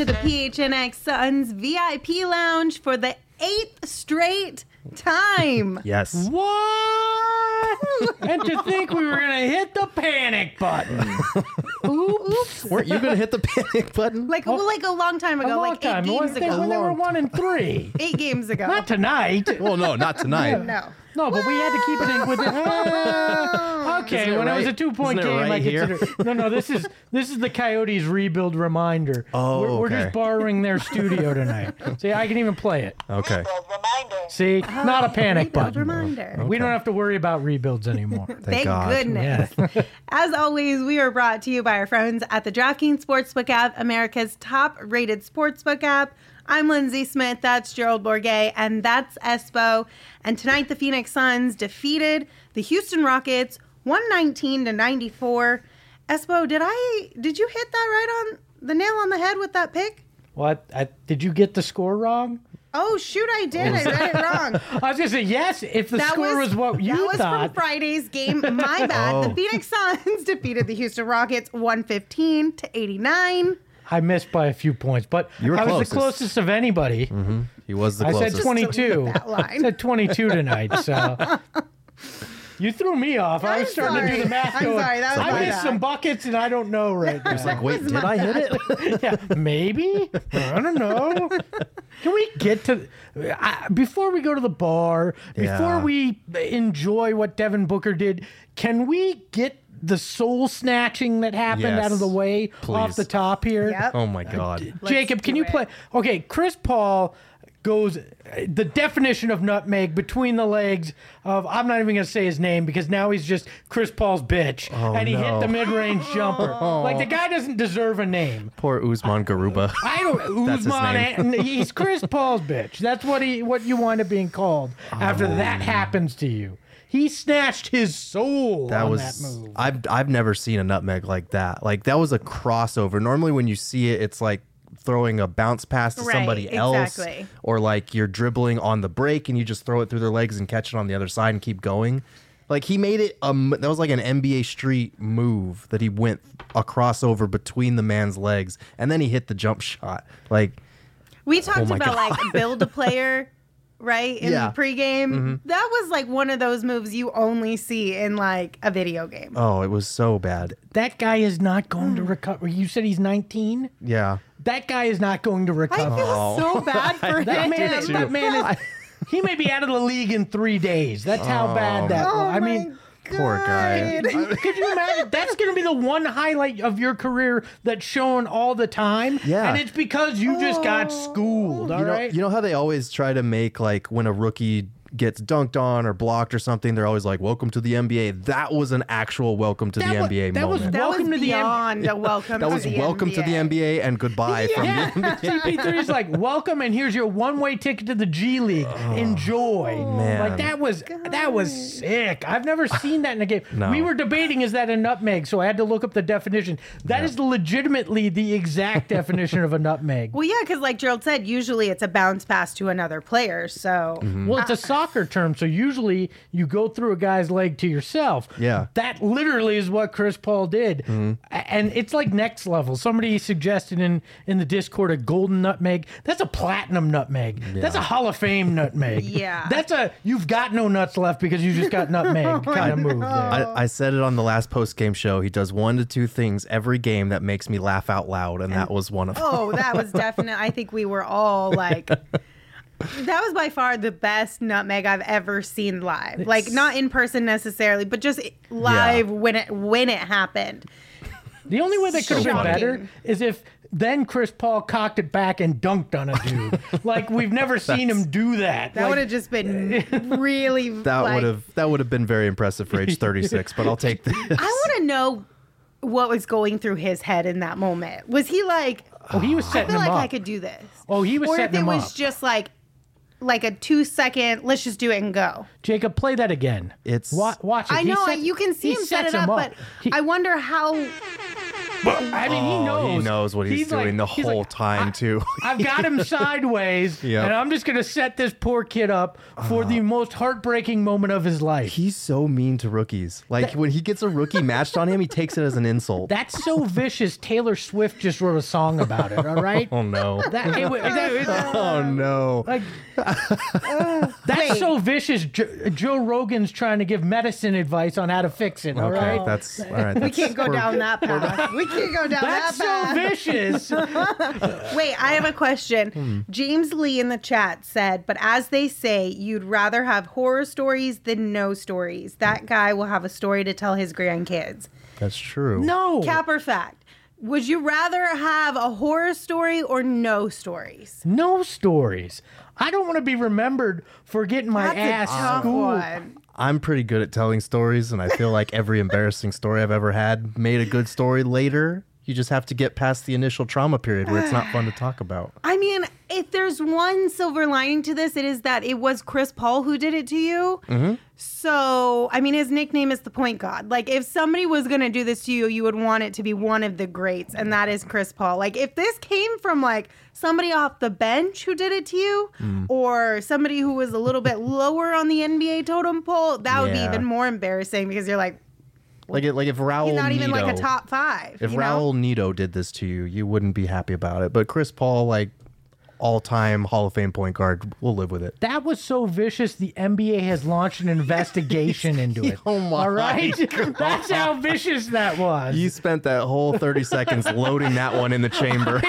into the PHNX Suns VIP Lounge for the 8th straight time. Yes. What? And to think we were going to hit the panic button. Oops. Weren't you going to hit the panic button? Like a long time ago, A long time. 8 games ago. When they were 1-3. 8 games ago. Not tonight. Well, no, not tonight. No. No, but we had to keep it in with it. Okay, Isn't it when it was a right- 2-point isn't it game, right I here? consider. No, this is the Coyotes rebuild reminder. Oh, we're okay. just borrowing their studio tonight. See, I can even play it. Okay. Reminder. See, not a panic Rebuild button. reminder. We don't have to worry about rebuilds anymore. Thank God. goodness. As always, we are brought to you by our friends at the DraftKings Sportsbook app, America's top-rated sportsbook app. I'm Lindsay Smith, that's Gerald Bourguet, and that's Espo. And tonight, the Phoenix Suns defeated the Houston Rockets 119-94. Espo, did you hit that right on the nail on the head with that pick? What? Did you get the score wrong? Oh, shoot, I did. I read it wrong. I was going to say, yes, if the score was what you That was thought. from Friday's game. My bad. Oh. The Phoenix Suns defeated the Houston Rockets 115-89. I missed by a few points, but You were I was closest. the closest of anybody. He was the I closest. said 22. That line. I said 22 tonight, so you threw me off. I was I'm starting to do sorry. the math. I'm going, sorry, that was I my missed bad. some buckets, and I don't know right now. It's like, wait, did I hit it? Yeah, maybe. I don't know. Can we get to before we go to the bar? Before Yeah. we enjoy what Devin Booker did? Can we get the soul snatching that happened Yes. out of the way off Please. the top here? Yep. Oh, my God. Jacob, Let's can do you it. play? Okay, Chris Paul goes the definition of nutmeg between the legs of I'm not even going to say his name because now he's just Chris Paul's bitch, and he hit no. the mid-range jumper. Like the guy doesn't deserve a name. Poor Usman Garuba. I don't. That's his Usman, name. he's Chris Paul's bitch. That's what you wind up being called after that happens to you. He snatched his soul That on was that move. I've never seen a nutmeg like that. Like that was a crossover. Normally when you see it, it's like throwing a bounce pass to Right, somebody else, exactly. or like you're dribbling on the break and you just throw it through their legs and catch it on the other side and keep going. Like he made it. That was like an NBA Street move that he went a crossover between the man's legs and then he hit the jump shot. Like We talked my about God. like build a player, right? In Yeah. the pregame. That was like one of those moves you only see in like a video game. oh, it was so bad. That guy is not going to recover. You said he's 19. Yeah. That guy is not going to I recover. feel so bad for That him. man is. He may be out of the league in 3 days. That's how bad that was. I mean, Poor guy. could you imagine? That's going to be the one highlight of your career that's shown all the time. Yeah. And it's because you just got schooled. All right. You know how they always try to make like when a rookie gets dunked on or blocked or something, they're always like, "Welcome to the NBA." That was an actual welcome to the NBA that was moment. That was Welcome to the beyond a welcome That to was the welcome to the NBA and goodbye from Yeah, the NBA. CP3 is like, welcome, and here's your one-way ticket to the G League. Enjoy. man. Like that was sick. I've never seen that in a game. No. We were debating is that a nutmeg, so I had to look up the definition. That is legitimately the exact definition of a nutmeg. Well, yeah, because like Gerald said, usually it's a bounce pass to another player. So Well, it's a soccer term, so usually you go through a guy's leg to yourself. Yeah. That literally is what Chris Paul did. And it's like next level. Somebody suggested in the Discord a golden nutmeg. That's a platinum nutmeg. That's a Hall of Fame nutmeg. Yeah. That's a you've got no nuts left because you just got nutmeg kind of move there. I said it on the last post game show. He does 1 to 2 things every game that makes me laugh out loud, and that was one of them. oh, that was definite. I think we were all like, that was by far the best nutmeg I've ever seen live. Like not in person necessarily, but just live when it happened. The only way that could have been Shocking. better is if then Chris Paul cocked it back and dunked on a dude. Like we've never seen him do that. That Like, would have just been really. That would have been very impressive for age 36, but I'll take this. I want to know what was going through his head in that moment. Was he like, Oh, he was I setting feel him like up. I could do this? Oh, he was or setting if it him was up. just like a 2-second, let's just do it and go. Jacob, play that again. It's- watch it. I He know set- you can see he him set sets it up, him but He- I wonder how. But I mean, he knows. He knows what he's doing the whole time, too. I've got him sideways, Yep. and I'm just going to set this poor kid up for the most heartbreaking moment of his life. He's so mean to rookies. Like, when he gets a rookie matched on him, he takes it as an insult. That's so vicious. Taylor Swift just wrote a song about it, all right? Oh, no. Oh, no. Like, that's so vicious. Joe Rogan's trying to give medicine advice on how to fix it, all right? All right. We can't go down that path. We can't go down That's that so vicious. path. Wait, I have a question. James Lee in the chat said, but as they say, you'd rather have horror stories than no stories. That guy will have a story to tell his grandkids. That's true. No. Cap or fact? Would you rather have a horror story or no stories? No stories. I don't want to be remembered for getting my That's ass a tough schooled. one. I'm pretty good at telling stories, and I feel like every embarrassing story I've ever had made a good story later. You just have to get past the initial trauma period where it's not fun to talk about. I mean, if there's one silver lining to this, it is that it was Chris Paul who did it to you. Mm-hmm. So, I mean, his nickname is the point guard. Like, if somebody was going to do this to you, you would want it to be one of the greats, and that is Chris Paul. Like, if this came from, like, somebody off the bench who did it to you, or somebody who was a little bit lower on the NBA totem pole, that would be Yeah. even more embarrassing because you're like, Like if Raul he's not even Neto, like a top five. if you know? Raul Neto did this to you, you wouldn't be happy about it. But Chris Paul, like all-time Hall of Fame point guard, we'll live with it. That was so vicious, the NBA has launched an investigation into it. Oh my all right? That's how vicious that was. You spent that whole 30 seconds loading that one in the chamber.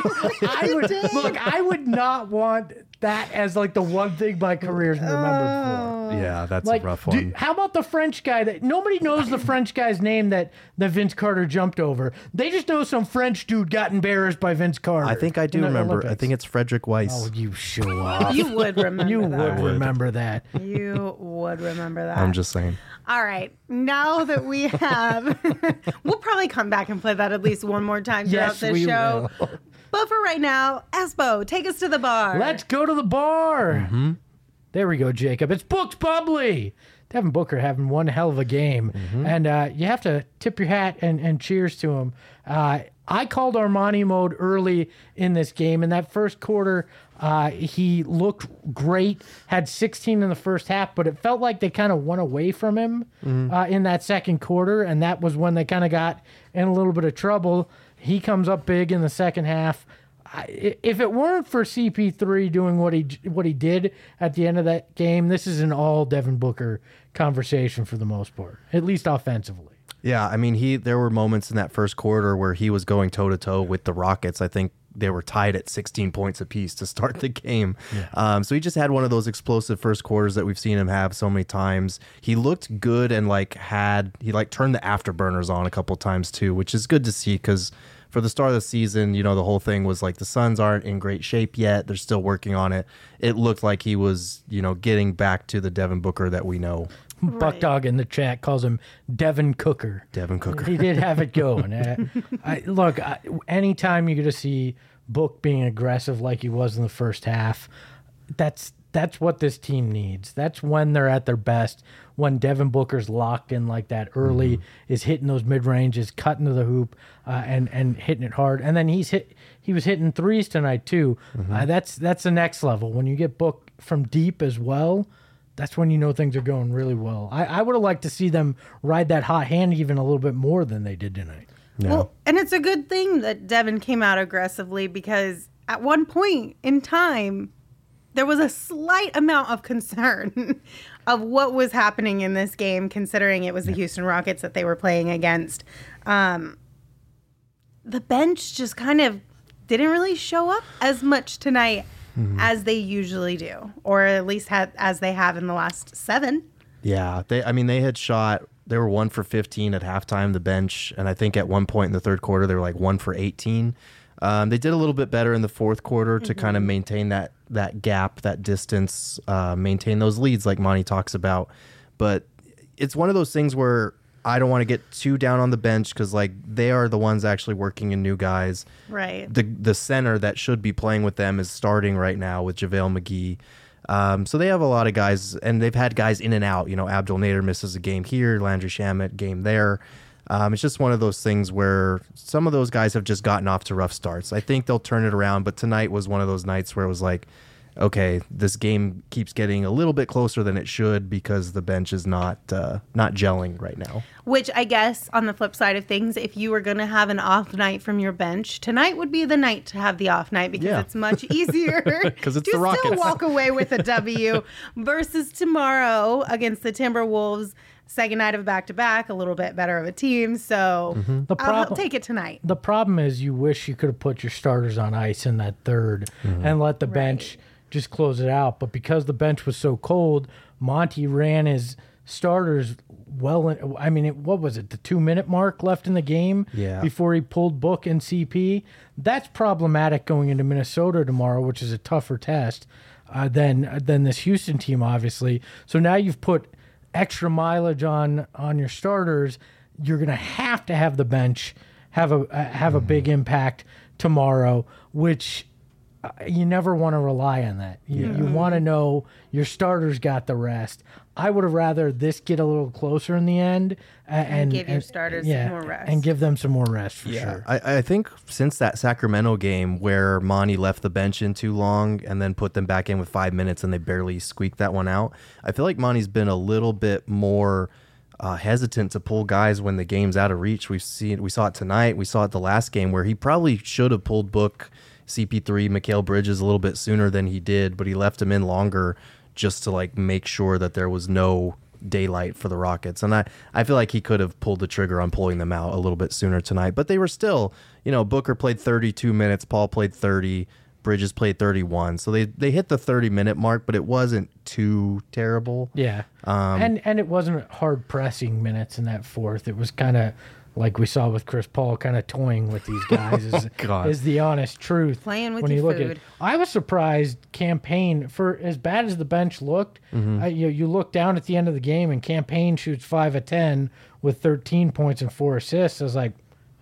I would not want that as like the one thing my career's remembered for. Yeah, that's Like, a rough one. how about the French guy that nobody knows the French guy's name that Vince Carter jumped over? They just know some French dude got embarrassed by Vince Carter. I think I do in the remember. I Olympics. think it's Frederick Weiss. Oh, you show off. You would remember You that. would remember that. You would remember that. I'm just saying. All right. Now that we have, we'll probably come back and play that at least one more time throughout Yes, this we show. will. But for right now, Espo, take us to the bar. Let's go to the bar. There we go, Jacob. It's booked bubbly. Devin Booker having one hell of a game. And you have to tip your hat and cheers to him. I called Armani mode early in this game. In that first quarter, he looked great, had 16 in the first half, but it felt like they kind of went away from him in that second quarter, and that was when they kind of got in a little bit of trouble. He comes up big in the second half. If it weren't for CP3 doing what he did at the end of that game, this is an all Devin Booker conversation for the most part, at least offensively. Yeah, I mean, there were moments in that first quarter where he was going toe-to-toe with the Rockets. I think they were tied at 16 points apiece to start the game. Yeah. So he just had one of those explosive first quarters that we've seen him have so many times. He looked good and he turned the afterburners on a couple times too, which is good to see because for the start of the season, the whole thing was like the Suns aren't in great shape yet. They're still working on it. It looked like he was, getting back to the Devin Booker that we know. Right. Buck Dog in the chat calls him Devin Cooker. Devin Cooker. He did have it going. Look, anytime you're going to see Book being aggressive like he was in the first half, that's what this team needs. That's when they're at their best. When Devin Booker's locked in like that early, is hitting those mid ranges, cutting to the hoop, and hitting it hard. And then he was hitting threes tonight too. That's the next level. When you get Book from deep as well, that's when you know things are going really well. I would have liked to see them ride that hot hand even a little bit more than they did tonight. Yeah. Well, and it's a good thing that Devin came out aggressively because at one point in time, there was a slight amount of concern of what was happening in this game, considering it was the Houston Rockets that they were playing against. The bench just kind of didn't really show up as much tonight as they usually do, or at least as they have in the last 7. Yeah, they had shot. They were 1 for 15 at halftime, the bench, and I think at one point in the third quarter they were like 1 for 18. They did a little bit better in the fourth quarter to kind of maintain that gap, that distance, maintain those leads like Monty talks about. But it's one of those things where I don't want to get too down on the bench because like they are the ones actually working in new guys. Right. The center that should be playing with them is starting right now with JaVale McGee. So they have a lot of guys, and they've had guys in and out. Abdul Nader misses a game here, Landry Shamet game there. It's just one of those things where some of those guys have just gotten off to rough starts. I think they'll turn it around, but tonight was one of those nights where it was like, okay, this game keeps getting a little bit closer than it should because the bench is not gelling right now. Which I guess on the flip side of things, if you were going to have an off night from your bench, tonight would be the night to have the off night because it's much easier because it's to the Rockets. Still walk away with a W versus tomorrow against the Timberwolves. Second night of a back-to-back, a little bit better of a team. So I'll take it tonight. The problem is you wish you could have put your starters on ice in that third and let the bench just close it out. But because the bench was so cold, Monty ran his starters well. I mean, what was it, the 2-minute mark left in the game before he pulled Book and CP? That's problematic going into Minnesota tomorrow, which is a tougher test than this Houston team, obviously. So now you've put extra mileage on your starters. You're going to have the bench have a big impact tomorrow, which you never want to rely on that. You want to know your starters got the rest. I would have rather this get a little closer in the end and give your starters more rest. And give them some more rest for sure. I think since that Sacramento game where Monty left the bench in too long and then put them back in with 5 minutes and they barely squeaked that one out, I feel like Monty's been a little bit more hesitant to pull guys when the game's out of reach. We saw it tonight. We saw it the last game where he probably should have pulled Book, CP3, Mikal Bridges a little bit sooner than he did, but he left him in longer just to like make sure that there was no daylight for the Rockets. And I feel like he could have pulled the trigger on pulling them out a little bit sooner tonight, but they were still, Booker played 32 minutes, Paul played 30, Bridges played 31. So they hit the 30-minute mark, but it wasn't too terrible. Yeah. And it wasn't hard pressing minutes in that fourth. It was kind of like we saw with Chris Paul, kind of toying with these guys is the honest truth. Playing with your food. I was surprised Campaign, for as bad as the bench looked, you look down at the end of the game and Campaign shoots 5 of 10 with 13 points and 4 assists. I was like,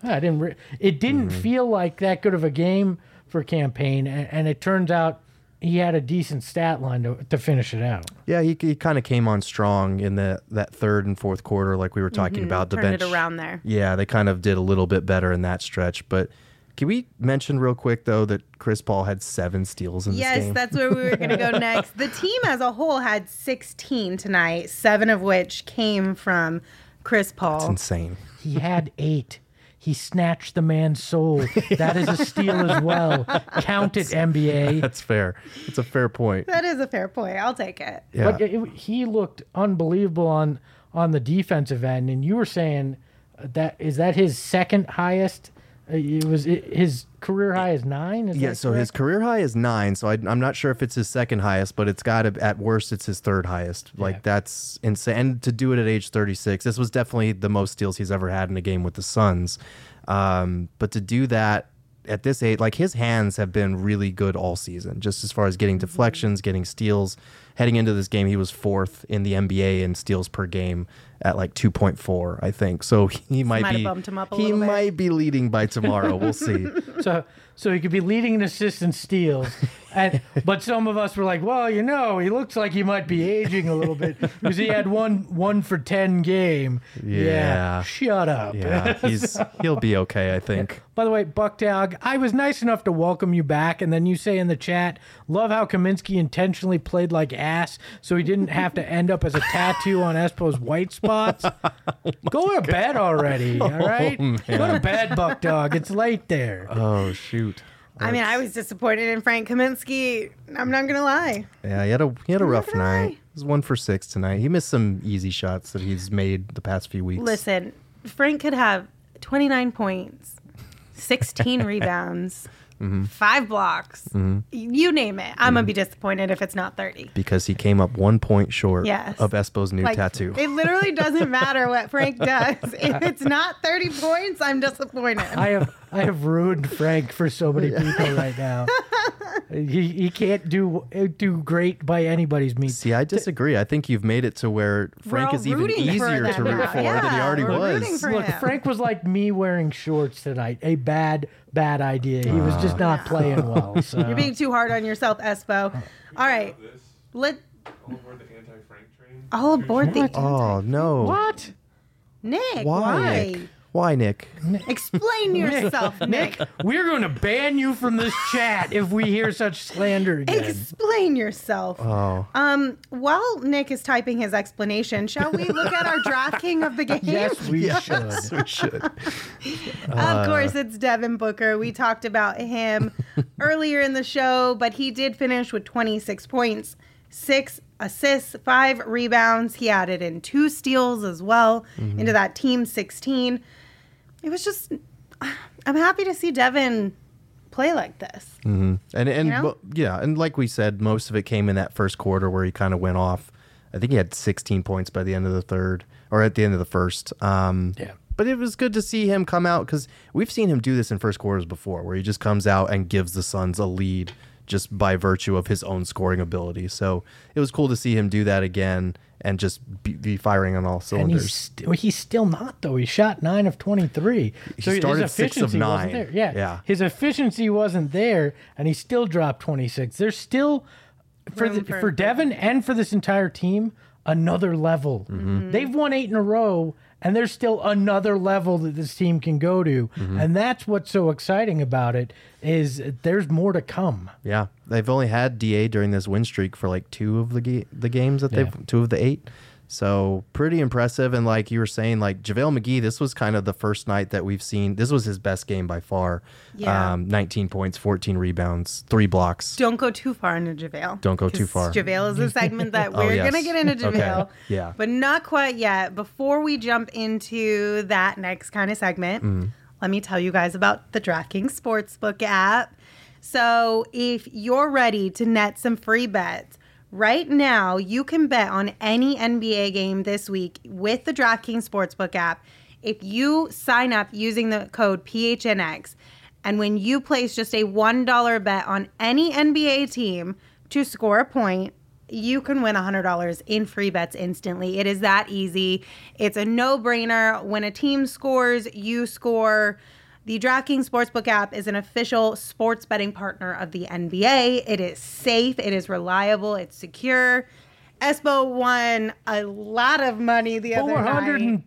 it didn't feel like that good of a game for Campaign, and it turns out he had a decent stat line to finish it out. Yeah, he kind of came on strong in that third and fourth quarter, like we were talking about. The Turned bench, it around there. Yeah, they kind of did a little bit better in that stretch. But can we mention real quick, though, that Chris Paul had 7 steals in this game? Yes, that's where we were going to go next. The team as a whole had 16 tonight, 7 of which came from Chris Paul. That's insane. He had 8. He snatched the man's soul. That is a steal as well. Count it, NBA. That's fair. It's a fair point. That is a fair point. I'll take it. Yeah. But he looked unbelievable on the defensive end. And you were saying that his second highest? His career high is 9? So his career high is 9. So I'm not sure if it's his second highest, but it's got to, at worst, it's his third highest. Like, that's insane. And to do it at age 36, this was definitely the most steals he's ever had in a game with the Suns. But to do that at this age, like, his hands have been really good all season, just as far as getting deflections, getting steals. Heading into this game, he was 4th in the NBA in steals per game at like 2.4, I think. So he might be leading by tomorrow. We'll see. So he could be leading in assists and steals. But some of us were like, well, he looks like he might be aging a little bit because he had one for 10 game. Yeah. Shut up. Yeah, he'll be okay, I think. By the way, Buckdog, I was nice enough to welcome you back, and then you say in the chat, love how Kaminsky intentionally played like ass so he didn't have to end up as a tattoo on Espo's white spots. Go to bed already, all right? Go to bed, Buckdog. It's late there. Oh, shoot. I was disappointed in Frank Kaminsky. I'm not going to lie. Yeah, he had a rough night. He was 1 for 6 tonight. He missed some easy shots that he's made the past few weeks. Listen, Frank could have 29 points, 16 rebounds, 5 blocks. You name it. I'm going to be disappointed if it's not 30. Because he came up 1 point short of Espo's new tattoo. It literally doesn't matter what Frank does. If it's not 30 points, I'm disappointed. I have ruined Frank for so many people right now. He can't do great by anybody's means. See, I disagree. I think you've made it to where Frank is even easier to root for than he already was. Look, Frank was like me wearing shorts tonight. A bad idea. He was just not playing well. So. You're being too hard on yourself, Espo. All right. All aboard the anti-Frank train. All aboard the... Oh, no. What? Nick, Why, Nick? Why, Nick? Explain yourself, Nick. We're going to ban you from this chat if we hear such slander again. Explain yourself. Oh. While Nick is typing his explanation, shall we look at our DraftKings of the game? Yes, we should. Yes, we should. Of course, it's Devin Booker. We talked about him earlier in the show, but he did finish with 26 points, 6 assists, 5 rebounds. He added in 2 steals as well into that team 16. It was just, I'm happy to see Devin play like this. Mm-hmm. And You know? yeah, and like we said, most of it came in that first quarter where he kind of went off. I think he had 16 points by the end of the third, or at the end of the first. Yeah. But it was good to see him come out, because we've seen him do this in first quarters before, where he just comes out and gives the Suns a lead just by virtue of his own scoring ability. So it was cool to see him do that again and just be firing on all cylinders. And he's still not, though. He shot 9 of 23. He started 6 of 9. Wasn't there. Yeah. His efficiency wasn't there, and he still dropped 26. There's still, for Devin and for this entire team, another level. They've won 8 in a row, and there's still another level that this team can go to. And that's what's so exciting about it, is there's more to come. Yeah, they've only had DA during this win streak for like 2 of the games that they've 2 of the 8. So pretty impressive. And like you were saying, like JaVale McGee, this was kind of the first night that we've seen. This was his best game by far. Yeah. 19 points, 14 rebounds, 3 blocks. Don't go too far into JaVale. Don't go too 'cause far. JaVale is a segment that we're yes. going to get into JaVale. Okay. Yeah. But not quite yet. Before we jump into that next kind of segment, let me tell you guys about the DraftKings Sportsbook app. So if you're ready to net some free bets, right now you can bet on any NBA game this week with the DraftKings Sportsbook app if you sign up using the code PHNX. And when you place just a $1 bet on any NBA team to score a point, you can win $100 in free bets instantly. It is that easy. It's a no-brainer. When a team scores, you score. The DraftKings Sportsbook app is an official sports betting partner of the NBA. It is safe, it is reliable, it's secure. Espo won a lot of money the other night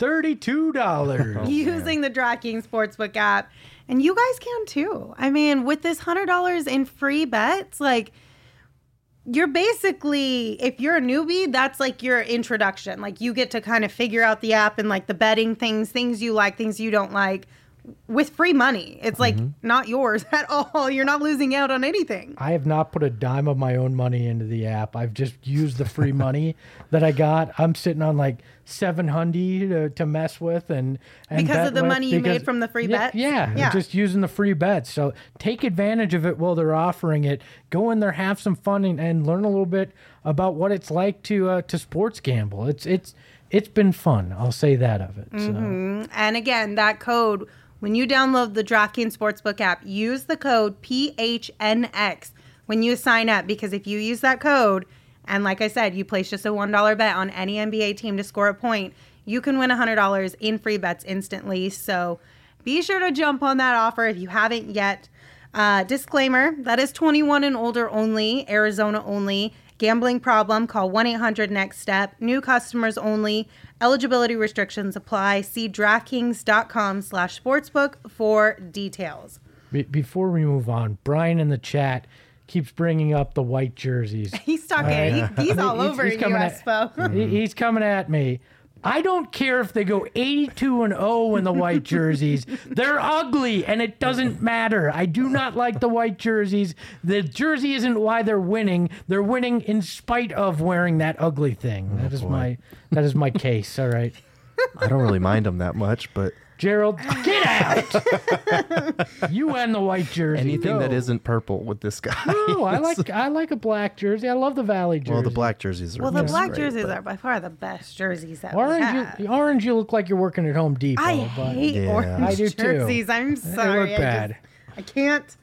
$432. using the DraftKings Sportsbook app. And you guys can too. I mean, with this $100 in free bets, like, you're basically, if you're a newbie, that's like your introduction. Like, you get to kind of figure out the app and like the betting things you like, things you don't like, with free money. It's like not yours at all. You're not losing out on anything. I have not put a dime of my own money into the app. I've just used the free money that I got. I'm sitting on like $700 to mess with and because of the money you made from the free bets? Yeah, just using the free bets. So take advantage of it while they're offering it. Go in there, have some fun, and learn a little bit about what it's like to sports gamble. It's been fun. I'll say that of it. So. And again, that code, when you download the DraftKings Sportsbook app, use the code PHNX when you sign up, because if you use that code, and like I said, you place just a $1 bet on any NBA team to score a point, you can win $100 in free bets instantly. So be sure to jump on that offer if you haven't yet. Disclaimer, that is 21 and older only, Arizona only. Gambling problem, call 1-800-NEXT-STEP. New customers only. Eligibility restrictions apply. See DraftKings.com/sportsbook for details. Before we move on, Brian in the chat keeps bringing up the white jerseys. He's talking. He's all over you, Espo. He's coming at me. I don't care if they go 82-0 in the white jerseys. They're ugly, and it doesn't matter. I do not like the white jerseys. The jersey isn't why they're winning. They're winning in spite of wearing that ugly thing. That is my case. All right. I don't really mind them that much, but Gerald, get out! You and the white jersey. anything that isn't purple with this guy. No, I like a black jersey. I love the Valley jersey. Well, the black jerseys are. Well, the just black great, jerseys but- are by far the best jerseys that we have. Orange, you look like you're working at Home Depot. I but hate Yeah. orange I do too. jerseys. I'm They sorry. look bad. I can't.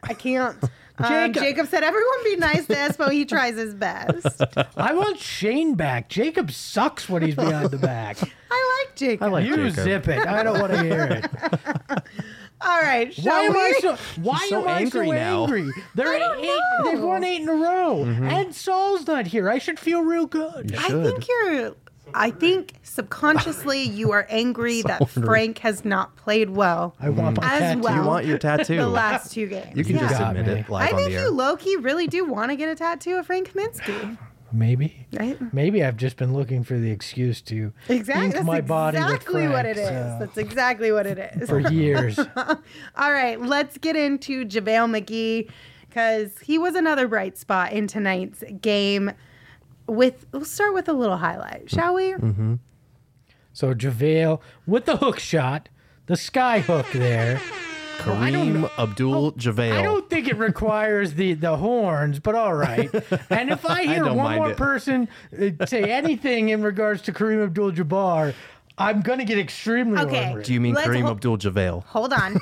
Jacob- Jacob said, everyone be nice to Espo. He tries his best. I want Shane back. Jacob sucks when he's behind the back. I like Jacob. I like You Jacob. zip it. I don't want to hear it. All right. Why am I so so angry now. angry? know. They've won 8 in a row. And Saul's not here. I should feel real good. You I should. think you're I think subconsciously you are angry that ornery. Frank has not played well I want my as tattoo. well. You want your tattoo. the last 2 games. You can just got admit me. it live I on think the air. you low-key really do want to get a tattoo of Frank Kaminsky, Maybe. right? Maybe I've just been looking for the excuse to Exactly. ink That's my body with exactly what it Frank, is. so- That's exactly what it is. for years. All right, let's get into JaVale McGee because he was another bright spot in tonight's game. We'll start with a little highlight, shall we? Mm-hmm. So JaVale with the hook shot, the sky hook there. Kareem Abdul-Jabbar. I don't think it requires the horns, but all right. And if I hear don't one mind more it. person say anything in regards to Kareem Abdul-Jabbar, I'm going to get extremely Okay. angry. Do you mean Let's Kareem hol- Abdul-Jabbar? Hold on.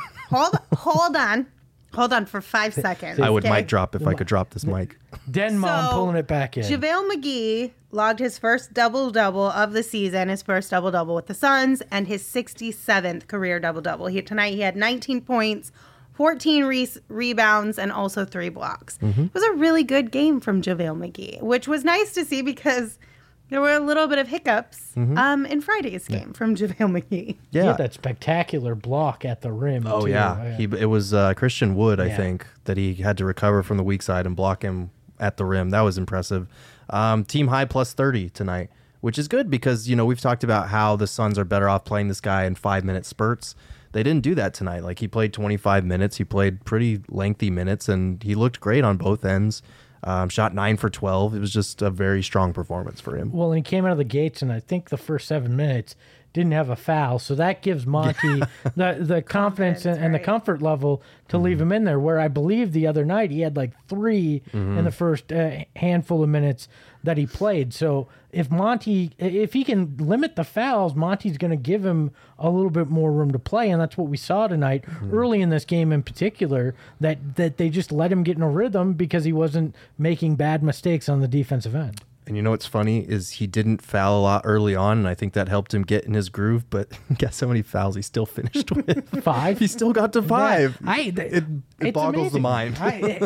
Hold on for 5 seconds. I would okay? mic drop if I could drop this mic. Den Mom So, pulling it back in. JaVale McGee logged his first double-double of the season, his first double-double with the Suns, and his 67th career double-double. Tonight he had 19 points, 14 rebounds, and also 3 blocks. It was a really good game from JaVale McGee, which was nice to see because there were a little bit of hiccups in Friday's game from JaVale McGee. He Yeah. had that spectacular block at the rim. Oh too. yeah, it was Christian Wood, I Yeah. think, that he had to recover from the weak side and block him at the rim. That was impressive. Team high plus 30 tonight, which is good because we've talked about how the Suns are better off playing this guy in 5-minute spurts. They didn't do that tonight. Like he played 25 minutes, he played pretty lengthy minutes, and he looked great on both ends. Shot 9 for 12. It was just a very strong performance for him. Well, and he came out of the gates, and I think the first 7 minutes didn't have a foul, so that gives Monty the confidence and the right. comfort level to leave him in there. Where I believe the other night he had like 3 in the first handful of minutes that he played. So if he can limit the fouls, Monty's going to give him a little bit more room to play, and that's what we saw tonight early in this game in particular. That they just let him get in a rhythm because he wasn't making bad mistakes on the defensive end. And you know what's funny is he didn't foul a lot early on, and I think that helped him get in his groove. But guess how many fouls he still finished with? 5. He still got to 5. It It boggles the mind. Hey,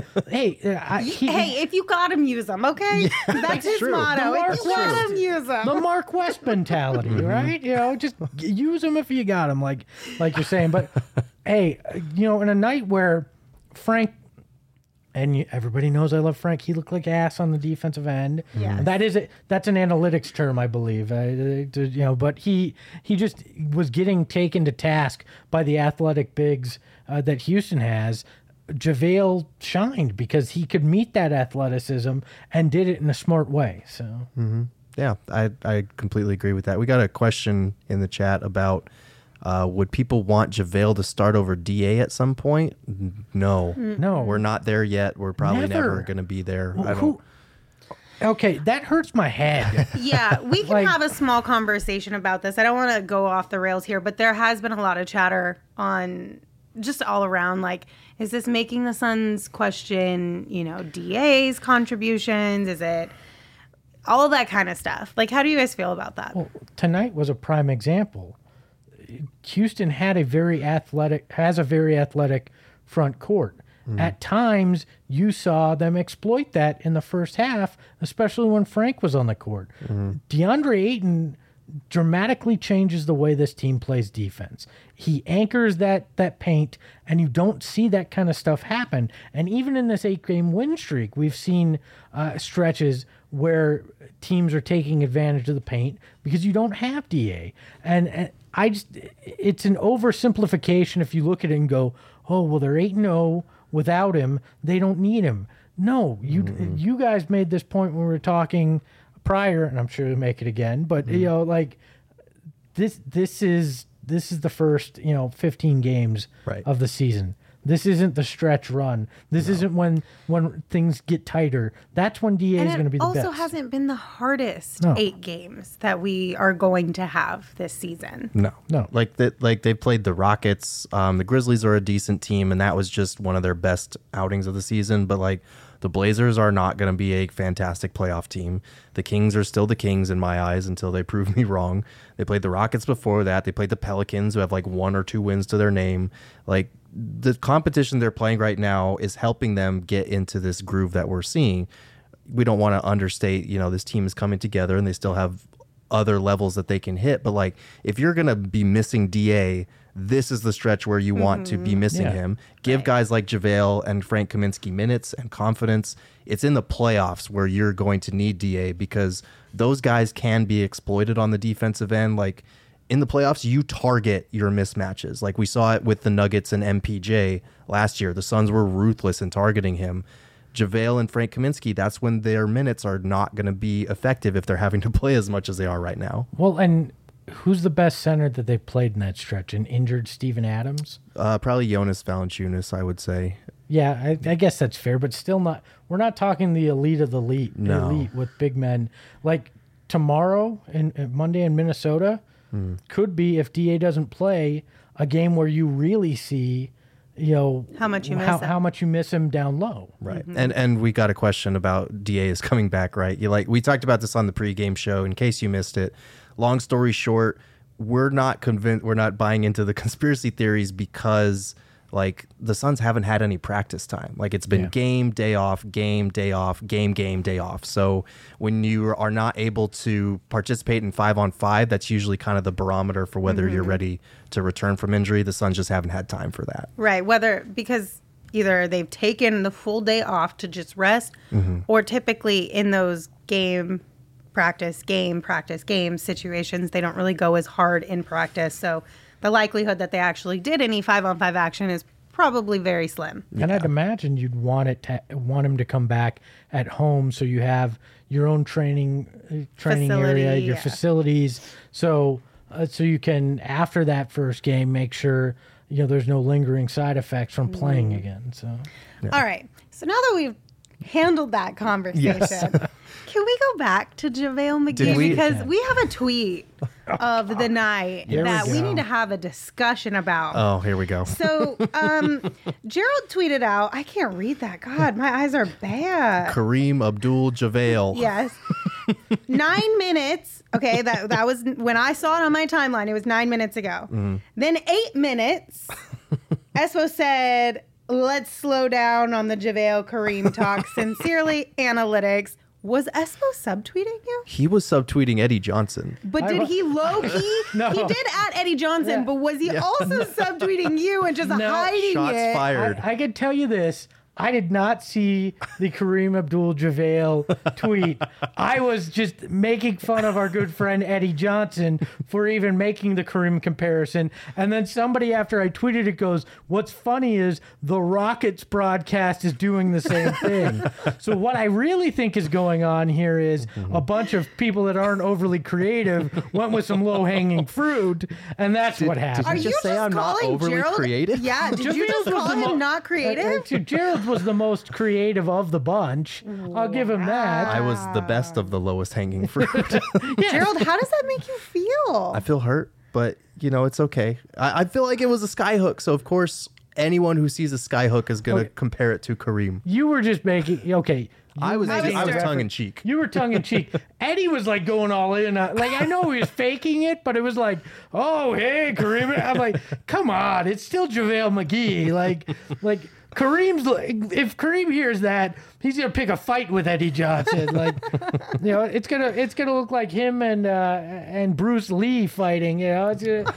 if you got him, use them, okay? That's his true. motto. The If you got him, use them. the Mark West mentality, right? Just use them if you got them, like you're saying. But hey, in a night where Frank. And everybody knows I love Frank. He looked like ass on the defensive end. Yes. That's an analytics term, I believe. But he just was getting taken to task by the athletic bigs that Houston has. JaVale shined because he could meet that athleticism and did it in a smart way. So Yeah, I completely agree with that. We got a question in the chat about would people want JaVale to start over DA at some point? No. No. We're not there yet. We're probably Never. never going to be there. I don't. who? Okay, that hurts my head. Yeah, we can Like- have a small conversation about this. I don't want to go off the rails here, but there has been a lot of chatter on just all around. Like, is this making the Suns question, DA's contributions? Is it all of that kind of stuff? Like, how do you guys feel about that? Well, tonight was a prime example. Houston has a very athletic front court. At times, you saw them exploit that in the first half, especially when Frank was on the court. DeAndre Ayton dramatically changes the way this team plays defense. He anchors that paint, and you don't see that kind of stuff happen. And even in this 8-game win streak, we've seen stretches where teams are taking advantage of the paint because you don't have DA. And it's an oversimplification if you look at it and go, oh, well, they're 8-0 without him. They don't need him. No, you guys made this point when we were talking prior, and I'm sure you'll make it again. But this is the first 15 games Right. of the season. This isn't the stretch run. This isn't when things get tighter. That's when DA And is going to be it the also best. hasn't been the hardest No. 8 games that we are going to have this season. No. No. Like they played the Rockets. The Grizzlies are a decent team, and that was just one of their best outings of the season. But like the Blazers are not going to be a fantastic playoff team. The Kings are still the Kings in my eyes until they prove me wrong. They played the Rockets before that. They played the Pelicans, who have like 1 or 2 wins to their name. Like the competition they're playing right now is helping them get into this groove that we're seeing. We don't want to understate, this team is coming together and they still have other levels that they can hit. But like, if you're going to be missing DA, this is the stretch where you want to be missing him. Give guys like JaVale and Frank Kaminsky minutes and confidence. It's in the playoffs where you're going to need DA because those guys can be exploited on the defensive end. Like in the playoffs, you target your mismatches. Like we saw it with the Nuggets and MPJ last year. The Suns were ruthless in targeting him. JaVale and Frank Kaminsky, that's when their minutes are not going to be effective if they're having to play as much as they are right now. Well, and who's the best center that they've played in that stretch? An injured Steven Adams? Probably Jonas Valanciunas, I would say. Yeah, I guess that's fair, but still not. We're not talking the elite of the elite, elite with big men. Like tomorrow and Monday in Minnesota could be, if DA doesn't play, a game where you really see, how much you miss him. How much you miss him down low. Right. And we got a question about DA is coming back, right? We talked about this on the pregame show in case you missed it. Long story short, we're not convinced, we're not buying into the conspiracy theories because like the Suns haven't had any practice time. Like it's been game, day off, game, day off, game, day off. So when you are not able to participate in 5-on-5, that's usually kind of the barometer for whether you're ready to return from injury. The Suns just haven't had time for that. Right. Because either they've taken the full day off to just rest or typically in those game practice game situations, they don't really go as hard in practice. So the likelihood that they actually did any 5-on-5 action is probably very slim. And I'd imagine you'd want him to come back at home, so you have your own training area, your facilities, so you can, after that first game, make sure there's no lingering side effects from playing again. So all right. So now that we've handled that conversation, can we go back to JaVale McGee? Because we have a tweet of the night that we need to have a discussion about. Oh, here we go. So Gerald tweeted out, I can't read that. God, my eyes are bad. Kareem Abdul-Jabbar. Yes. 9 minutes. Okay, that was when I saw it on my timeline. It was 9 minutes ago. Then 8 minutes. Espo said, let's slow down on the JaVale Kareem talk. Sincerely, Analytics. Was Espo subtweeting you? He was subtweeting Eddie Johnson. But did he low-key? No. He did at Eddie Johnson, but was he also subtweeting you and just hiding Shots it? fired. I can tell you this. I did not see the Kareem Abdul-Jabbar tweet. I was just making fun of our good friend Eddie Johnson for even making the Kareem comparison. And then somebody, after I tweeted it, goes, what's funny is the Rockets broadcast is doing the same thing. So what I really think is going on here is a bunch of people that aren't overly creative went with some low-hanging fruit, and that's what happened. Are you just say I'm not calling overly Gerald creative? Yeah, did you just call him not creative? Gerald was the most creative of the bunch. I'll give him that. I was the best of the lowest hanging fruit. Gerald, how does that make you feel? I feel hurt, but it's okay. I feel like it was a skyhook, so of course anyone who sees a skyhook is going to compare it to Kareem. You were just making I was tongue in cheek. You were tongue in cheek. Eddie was like going all in. Like I know he was faking it, but it was like, oh hey Kareem. I'm like, come on, it's still JaVale McGee. Like Kareem's. If Kareem hears that, he's gonna pick a fight with Eddie Johnson. Like, it's gonna look like him and Bruce Lee fighting. It's no.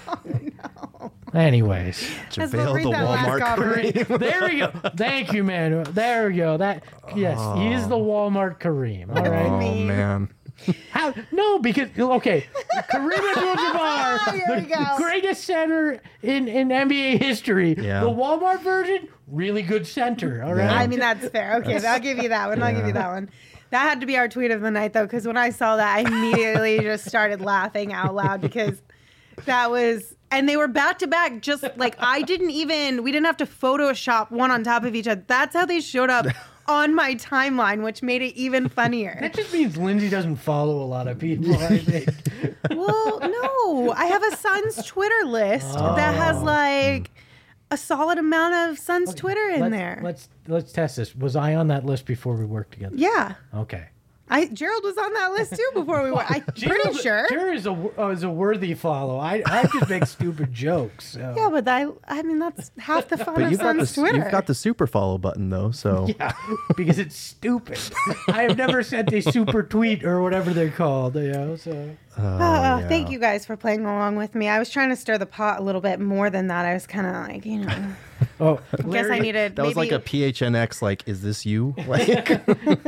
Anyways, JaVale the Walmart Kareem. There we go. Thank you, man. There we go. He is the Walmart Kareem. All right. Oh man. How? No, because Kareem Abdul-Jabbar, the greatest center in NBA history. Yeah. The Walmart version, really good center. All right. I mean, that's fair. Okay, I'll give you that one. I'll give you that one. That had to be our tweet of the night, though, because when I saw that, I immediately just started laughing out loud because that was. And they were back to back, just like we didn't have to Photoshop one on top of each other. That's how they showed up on my timeline, which made it even funnier. That just means Lindsay doesn't follow a lot of people, I think. Well, no. I have a Suns Twitter list that has like a solid amount of Suns Twitter in there. Let's test this. Was I on that list before we worked together? Yeah. Okay. Gerald was on that list too before we went. I'm pretty sure. Gerald is a worthy follow. I just make stupid jokes. So. Yeah, but I mean that's half the fun But of Sun's Twitter. you've got the super follow button though, so Yeah, because it's stupid. I have never sent a super tweet or whatever they're called. So. Thank you guys for playing along with me. I was trying to stir the pot a little bit more than that. I was kind of like, Oh, I guess I needed. that was like a PHNX. Like, is this you? Like,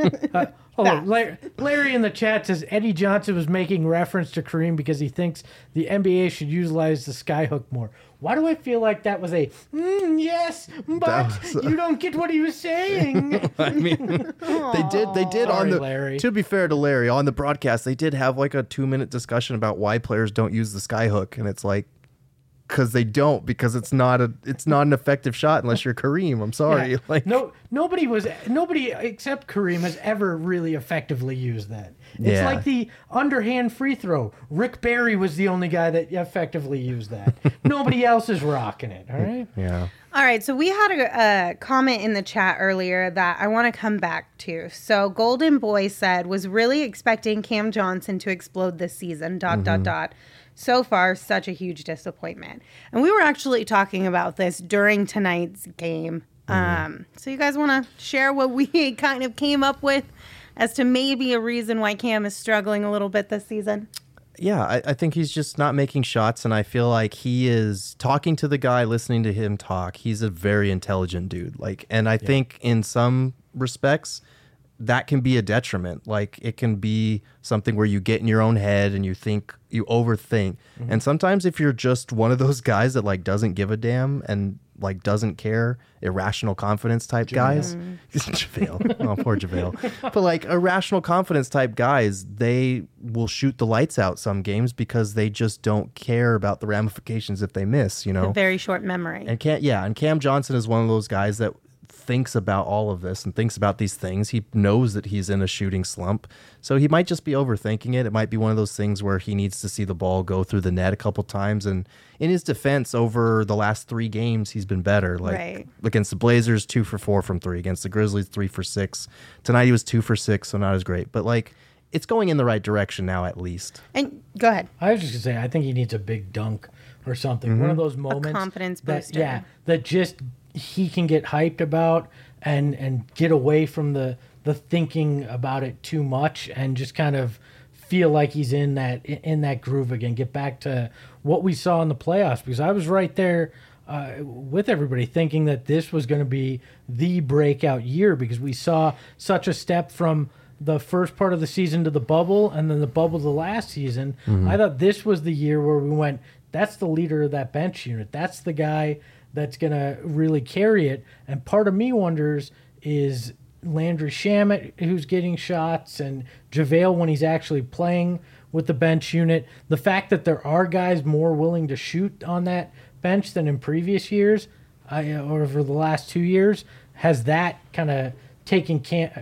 Larry in the chat says Eddie Johnson was making reference to Kareem because he thinks the NBA should utilize the skyhook more. Why do I feel like that was a yes, but you don't get what he was saying? I mean, they did on the. Larry. To be fair to Larry, on the broadcast, they did have like a 2-minute discussion about why players don't use the skyhook, and it's like, because they don't, because it's not an effective shot unless you're Kareem. I'm sorry. Yeah. Like Nobody except Kareem has ever really effectively used that. It's Yeah. like the underhand free throw. Rick Barry was the only guy that effectively used that. Nobody else is rocking it. All right. yeah. All right, so we had a comment in the chat earlier that I want to come back to. So Golden Boy said, was really expecting Cam Johnson to explode this season, ... So far, such a huge disappointment. And we were actually talking about this during tonight's game. So you guys want to share what we kind of came up with as to maybe a reason why Cam is struggling a little bit this season? Yeah, I think he's just not making shots, and I feel like he is talking to the guy, listening to him talk. He's a very intelligent dude. And I think in some respects, that can be a detriment. Like, it can be something where you get in your own head and you overthink. And sometimes if you're just one of those guys that like doesn't give a damn and like doesn't care, irrational confidence type guys. JaVale. Oh, poor JaVale. But like irrational confidence type guys, they will shoot the lights out some games because they just don't care about the ramifications if they miss, you know. A very short memory. And Cam Johnson is one of those guys that thinks about all of this and thinks about these things. He knows that he's in a shooting slump, so he might just be overthinking it. It might be one of those things where he needs to see the ball go through the net a couple times. And in his defense, over the last 3 games, he's been better. Like against the Blazers, 2 for 4 from 3. Against the Grizzlies, 3 for 6. Tonight he was 2 for 6, so not as great. But like, it's going in the right direction now, at least. And go ahead. I was just gonna say, I think he needs a big dunk or something. One of those moments, confidence booster. that just he can get hyped about and get away from the thinking about it too much and just kind of feel like he's in that groove again. Get back to what we saw in the playoffs, because I was right there with everybody thinking that this was going to be the breakout year, because we saw such a step from the first part of the season to the bubble and then the bubble to the last season. I thought this was the year where we went, that's the leader of that bench unit. That's the guy that's going to really carry it. And part of me wonders, is Landry Shamet, who's getting shots, and JaVale when he's actually playing with the bench unit. The fact that there are guys more willing to shoot on that bench than in previous years, or over the last 2 years, has that kind of taken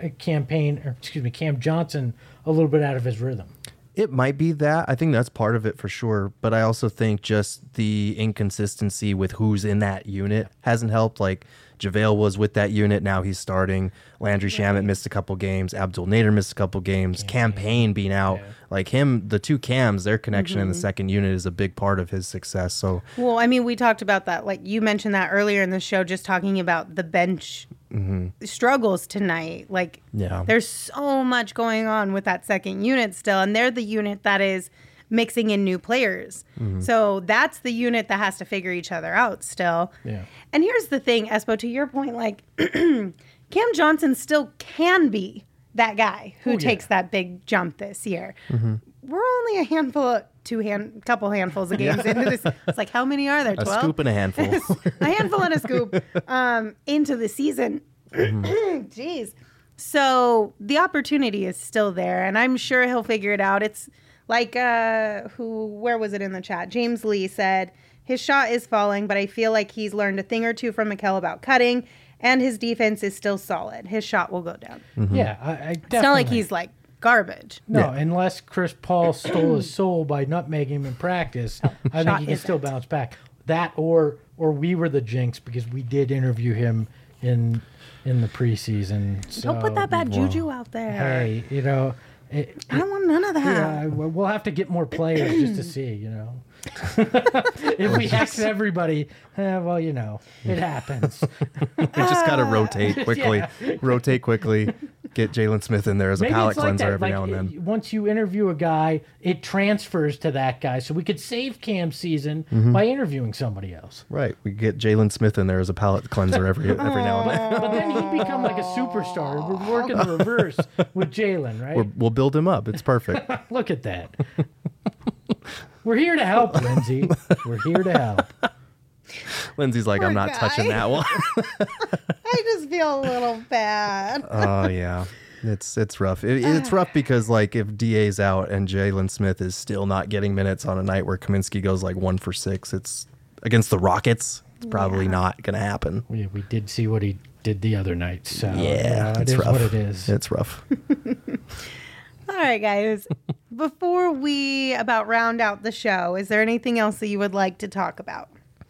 Cam Johnson a little bit out of his rhythm. It might be that. I think that's part of it for sure. But I also think just the inconsistency with who's in that unit hasn't helped. Like, JaVale was with that unit. Now he's starting. Landry Shamet missed a couple games. Abdul Nader missed a couple games. Cam Payne being out. Yeah. Like him, the two Cams, their connection in the second unit is a big part of his success. So, well, I mean, we talked about that. Like you mentioned that earlier in the show, just talking about the bench struggles tonight. Like, there's so much going on with that second unit still. And they're the unit that is mixing in new players. So that's the unit that has to figure each other out still. Yeah. And here's the thing, Espo, to your point, like Cam Johnson still can be that guy who takes that big jump this year. We're only a couple handfuls of games into this. It's like, how many are there? 12? A scoop and a handful. A handful and a scoop into the season. Jeez. So the opportunity is still there, and I'm sure he'll figure it out. It's like, where was it in the chat? James Lee said, his shot is falling, but I feel like he's learned a thing or two from Mikal about cutting, and his defense is still solid. His shot will go down. Yeah, I definitely. It's not like he's like garbage. No, unless Chris Paul stole his soul by nutmegging him in practice, I think he can still bounce back. That or we were the jinx, because we did interview him in the preseason. So, don't put that bad juju out there. Hey, I don't want none of that. Yeah, we'll have to get more players just to see, If we X everybody, well, it happens. We just got to rotate quickly. Yeah. Rotate quickly. Get Jalen Smith in there as a Maybe palate it's like cleanser that. every Like, now and then. Once you interview a guy, it transfers to that guy. So we could save Cam's season by interviewing somebody else. Right. We get Jalen Smith in there as a palate cleanser every now and then. But then he'd become like a superstar. We're working the reverse with Jalen, right? We'll build him up. It's perfect. Look at that. We're here to help, Lindsay. We're here to help. Lindsay's like, Poor I'm not guy. touching that one. I just feel a little bad. Oh yeah, it's rough. It's rough because like if DA's out and Jalen Smith is still not getting minutes on a night where Kaminsky goes like 1 for 6, it's against the Rockets. It's probably not going to happen. We did see what he did the other night. So Yeah, it it's is rough. what it is. It's rough. All right, guys. Before we about round out the show, is there anything else that you would like to talk about?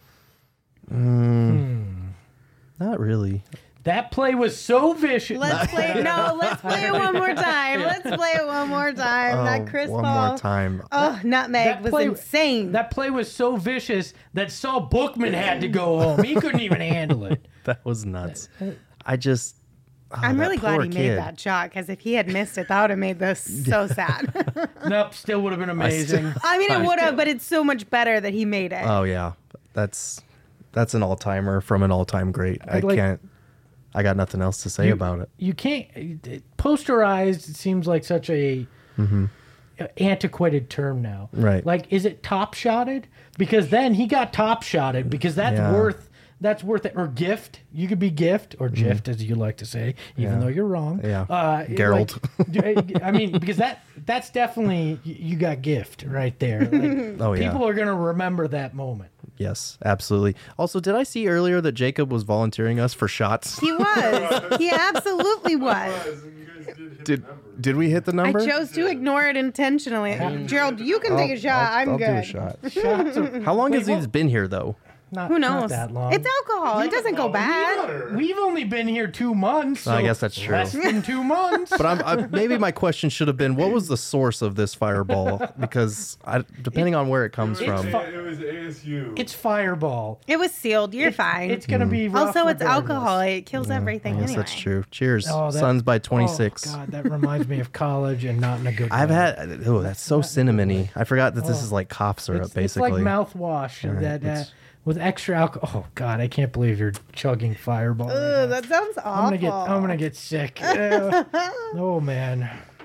Not really. That play was so vicious. Let's play it one more time. Let's play it one more time. That Chris one Paul. more time. Oh, nutmeg That was play- insane. That play was so vicious that Saul Bookman had to go home. He couldn't even handle it. That was nuts. I just. I'm that really glad poor he made kid. that shot because if he had missed it, that would have made this so sad. Nope, still would have been amazing. I mean, it would have, but it's so much better that he made it. Oh yeah, that's an all timer from an all time great. I like- can't. I got nothing else to say about it. You can't posterized. It seems like such a antiquated term now. Right. Like, is it top shotted? Because then he got top shotted because that's Yeah. worth it. Or gift. You could be gift or gift as you like to say, even Yeah. though you're wrong. Yeah. Gerald. I mean, because that's definitely you got gift right there. Like, Oh, yeah. people are gonna remember that moment. Yes, absolutely. Also, did I see earlier that Jacob was volunteering us for shots? He was. He absolutely was. Did we hit the number? I chose to ignore it intentionally. Gerald, you can take a shot. I'm I'll good. do a shot. Shots of- How long Wait, has he been here though? not, Who not knows? that long. It's alcohol. It doesn't go bad. We've only been here 2 months. I so guess that's true. Less than 2 months. But maybe my question should have been, what was the source of this fireball? Because depending on where it comes from. fu- It was ASU. It's Fireball. It was sealed. You're fine. It's gonna be rough Also, it's regardless. alcohol. It kills everything Yes, anyway. that's true. Cheers. Oh, that- Suns by 26. Oh, God, that reminds me of college and not in a good way. I've had, that's so cinnamony. I forgot that this is like cough syrup, It's basically. like mouthwash that with extra alcohol. Oh God, I can't believe you're chugging Fireball. right now. Ugh, that sounds awful. I'm gonna get sick. Oh man.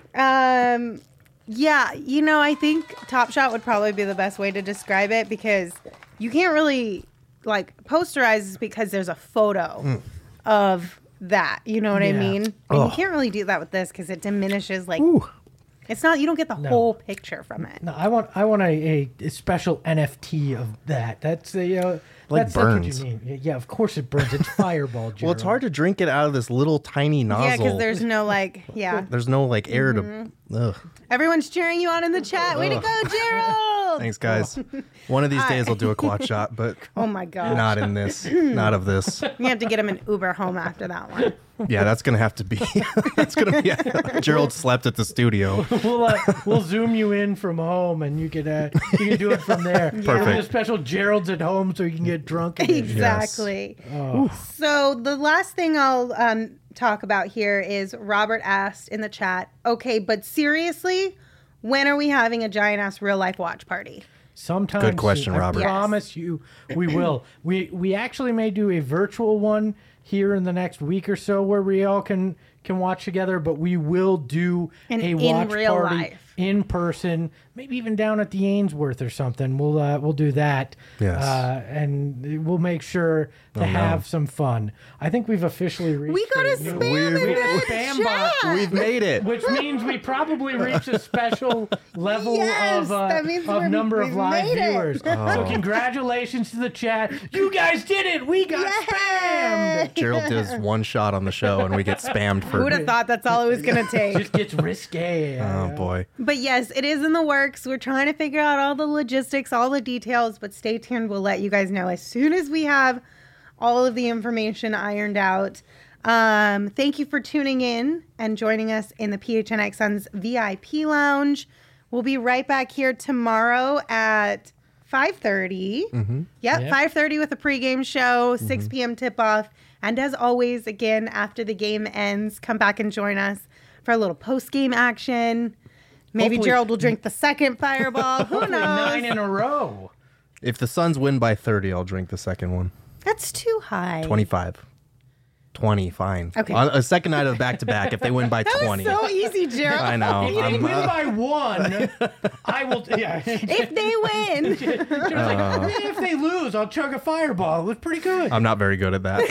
Yeah, I think Top Shot would probably be the best way to describe it because you can't really posterize because there's a photo of that. You know what I Yeah. mean? And you can't really do that with this because it diminishes it's not. You don't get the whole picture from it. No, I want a special NFT of that. That's Like that's burns. what you mean. Yeah, of course it burns. It's Fireball. Well, it's hard to drink it out of this little tiny nozzle. Yeah, because there's no There's no air to. Ugh. Everyone's cheering you on in the chat. Way to go, Gerald! Thanks, guys. One of these days I'll do a quad shot, but Oh my god. not in this. Not of this. You have to get him an Uber home after that one. Yeah, that's gonna have to be. That's gonna be. Gerald slept at the studio. We'll zoom you in from home, and you can do it from there. Perfect. We'll do a special Gerald's at home, so you can get drunk. in it. Exactly. So the last thing I'll talk about here is Robert asked in the chat, okay, but seriously, when are we having a giant ass real life watch party? Sometime Good question, soon. Robert. I promise you, we will. We actually may do a virtual one here in the next week or so where we all can watch together, but we will do In watch real party life. in person, maybe even down at the Ainsworth or something. We'll do that. Yes. And we'll make sure to have some fun. I think we've officially reached We got a a new- spam in we the got a spam bot. chat. We've made it. Which means we probably reached a special level Yes, that means of number of we've live made it. viewers. So congratulations to the chat. You guys did it. We got spammed. Gerald does one shot on the show and we get spammed Who would for. have thought that's all it was going to take? Just gets risque. Oh boy. But yes, it is in the works. We're trying to figure out all the logistics, all the details, but stay tuned. We'll let you guys know as soon as we have all of the information ironed out. Thank you for tuning in and joining us in the PHNX Suns VIP Lounge. We'll be right back here tomorrow at 5:30. Yep, 5:30 with a pregame show, 6 p.m. tip-off. And as always, again, after the game ends, come back and join us for a little post-game action. Maybe Hopefully- Gerald will drink the second fireball. Who knows? 9 in a row. If the Suns win by 30, I'll drink the second one. That's too high. 25. 20, fine. Okay. On a second night of back-to-back, if they win by That 20. was so easy, Gerald. I know. If they win by 1, I will. Yeah. If they win. If they lose, I'll chug a fireball. It was pretty good. I'm not very good at that.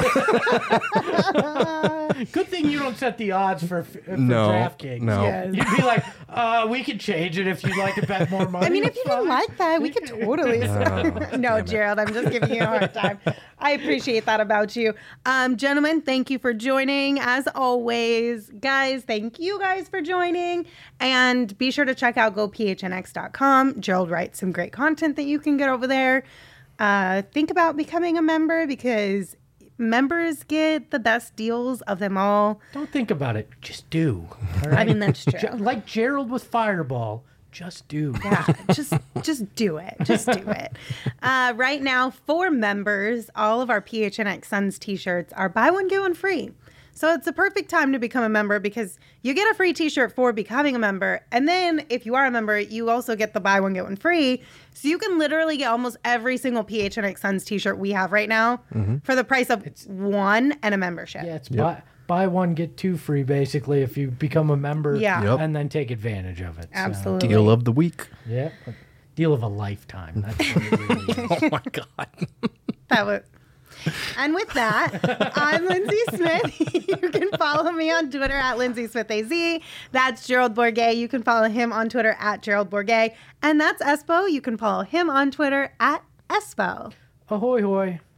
Good thing you don't set the odds for No, DraftKings. no. Yes. You'd be like, we could change it if you'd like to bet more money. I mean, if It's you didn't fine. like that, we could totally. No, Gerald, I'm just giving you a hard time. I appreciate that about you. Gentlemen, thank you for joining. As always, guys, thank you guys for joining. And be sure to check out gophnx.com. Gerald writes some great content that you can get over there. Think about becoming a member because members get the best deals of them all. Don't think about it. Just do. All I right? mean, that's true. Like Gerald with Fireball. Just do. Yeah, just do it. Just do it. Right now, for members, all of our PHNX Suns t-shirts are buy one, get one free. So it's a perfect time to become a member because you get a free t-shirt for becoming a member. And then if you are a member, you also get the buy one, get one free. So you can literally get almost every single PHNX Suns t-shirt we have right now for the price of one and a membership. Yeah, it's buy one, get 2 free, basically, if you become a member Yeah. Yep. and then take advantage of it. So, Absolutely. Deal of the week. yeah. Deal of a lifetime. That's what it really is. Oh, my God. That was. And with that, I'm Lindsay Smith. You can follow me on Twitter at Lindsay Smith AZ. That's Gerald Bourget. You can follow him on Twitter at Gerald Bourget. And that's Espo. You can follow him on Twitter at Espo. Ahoy, hoy.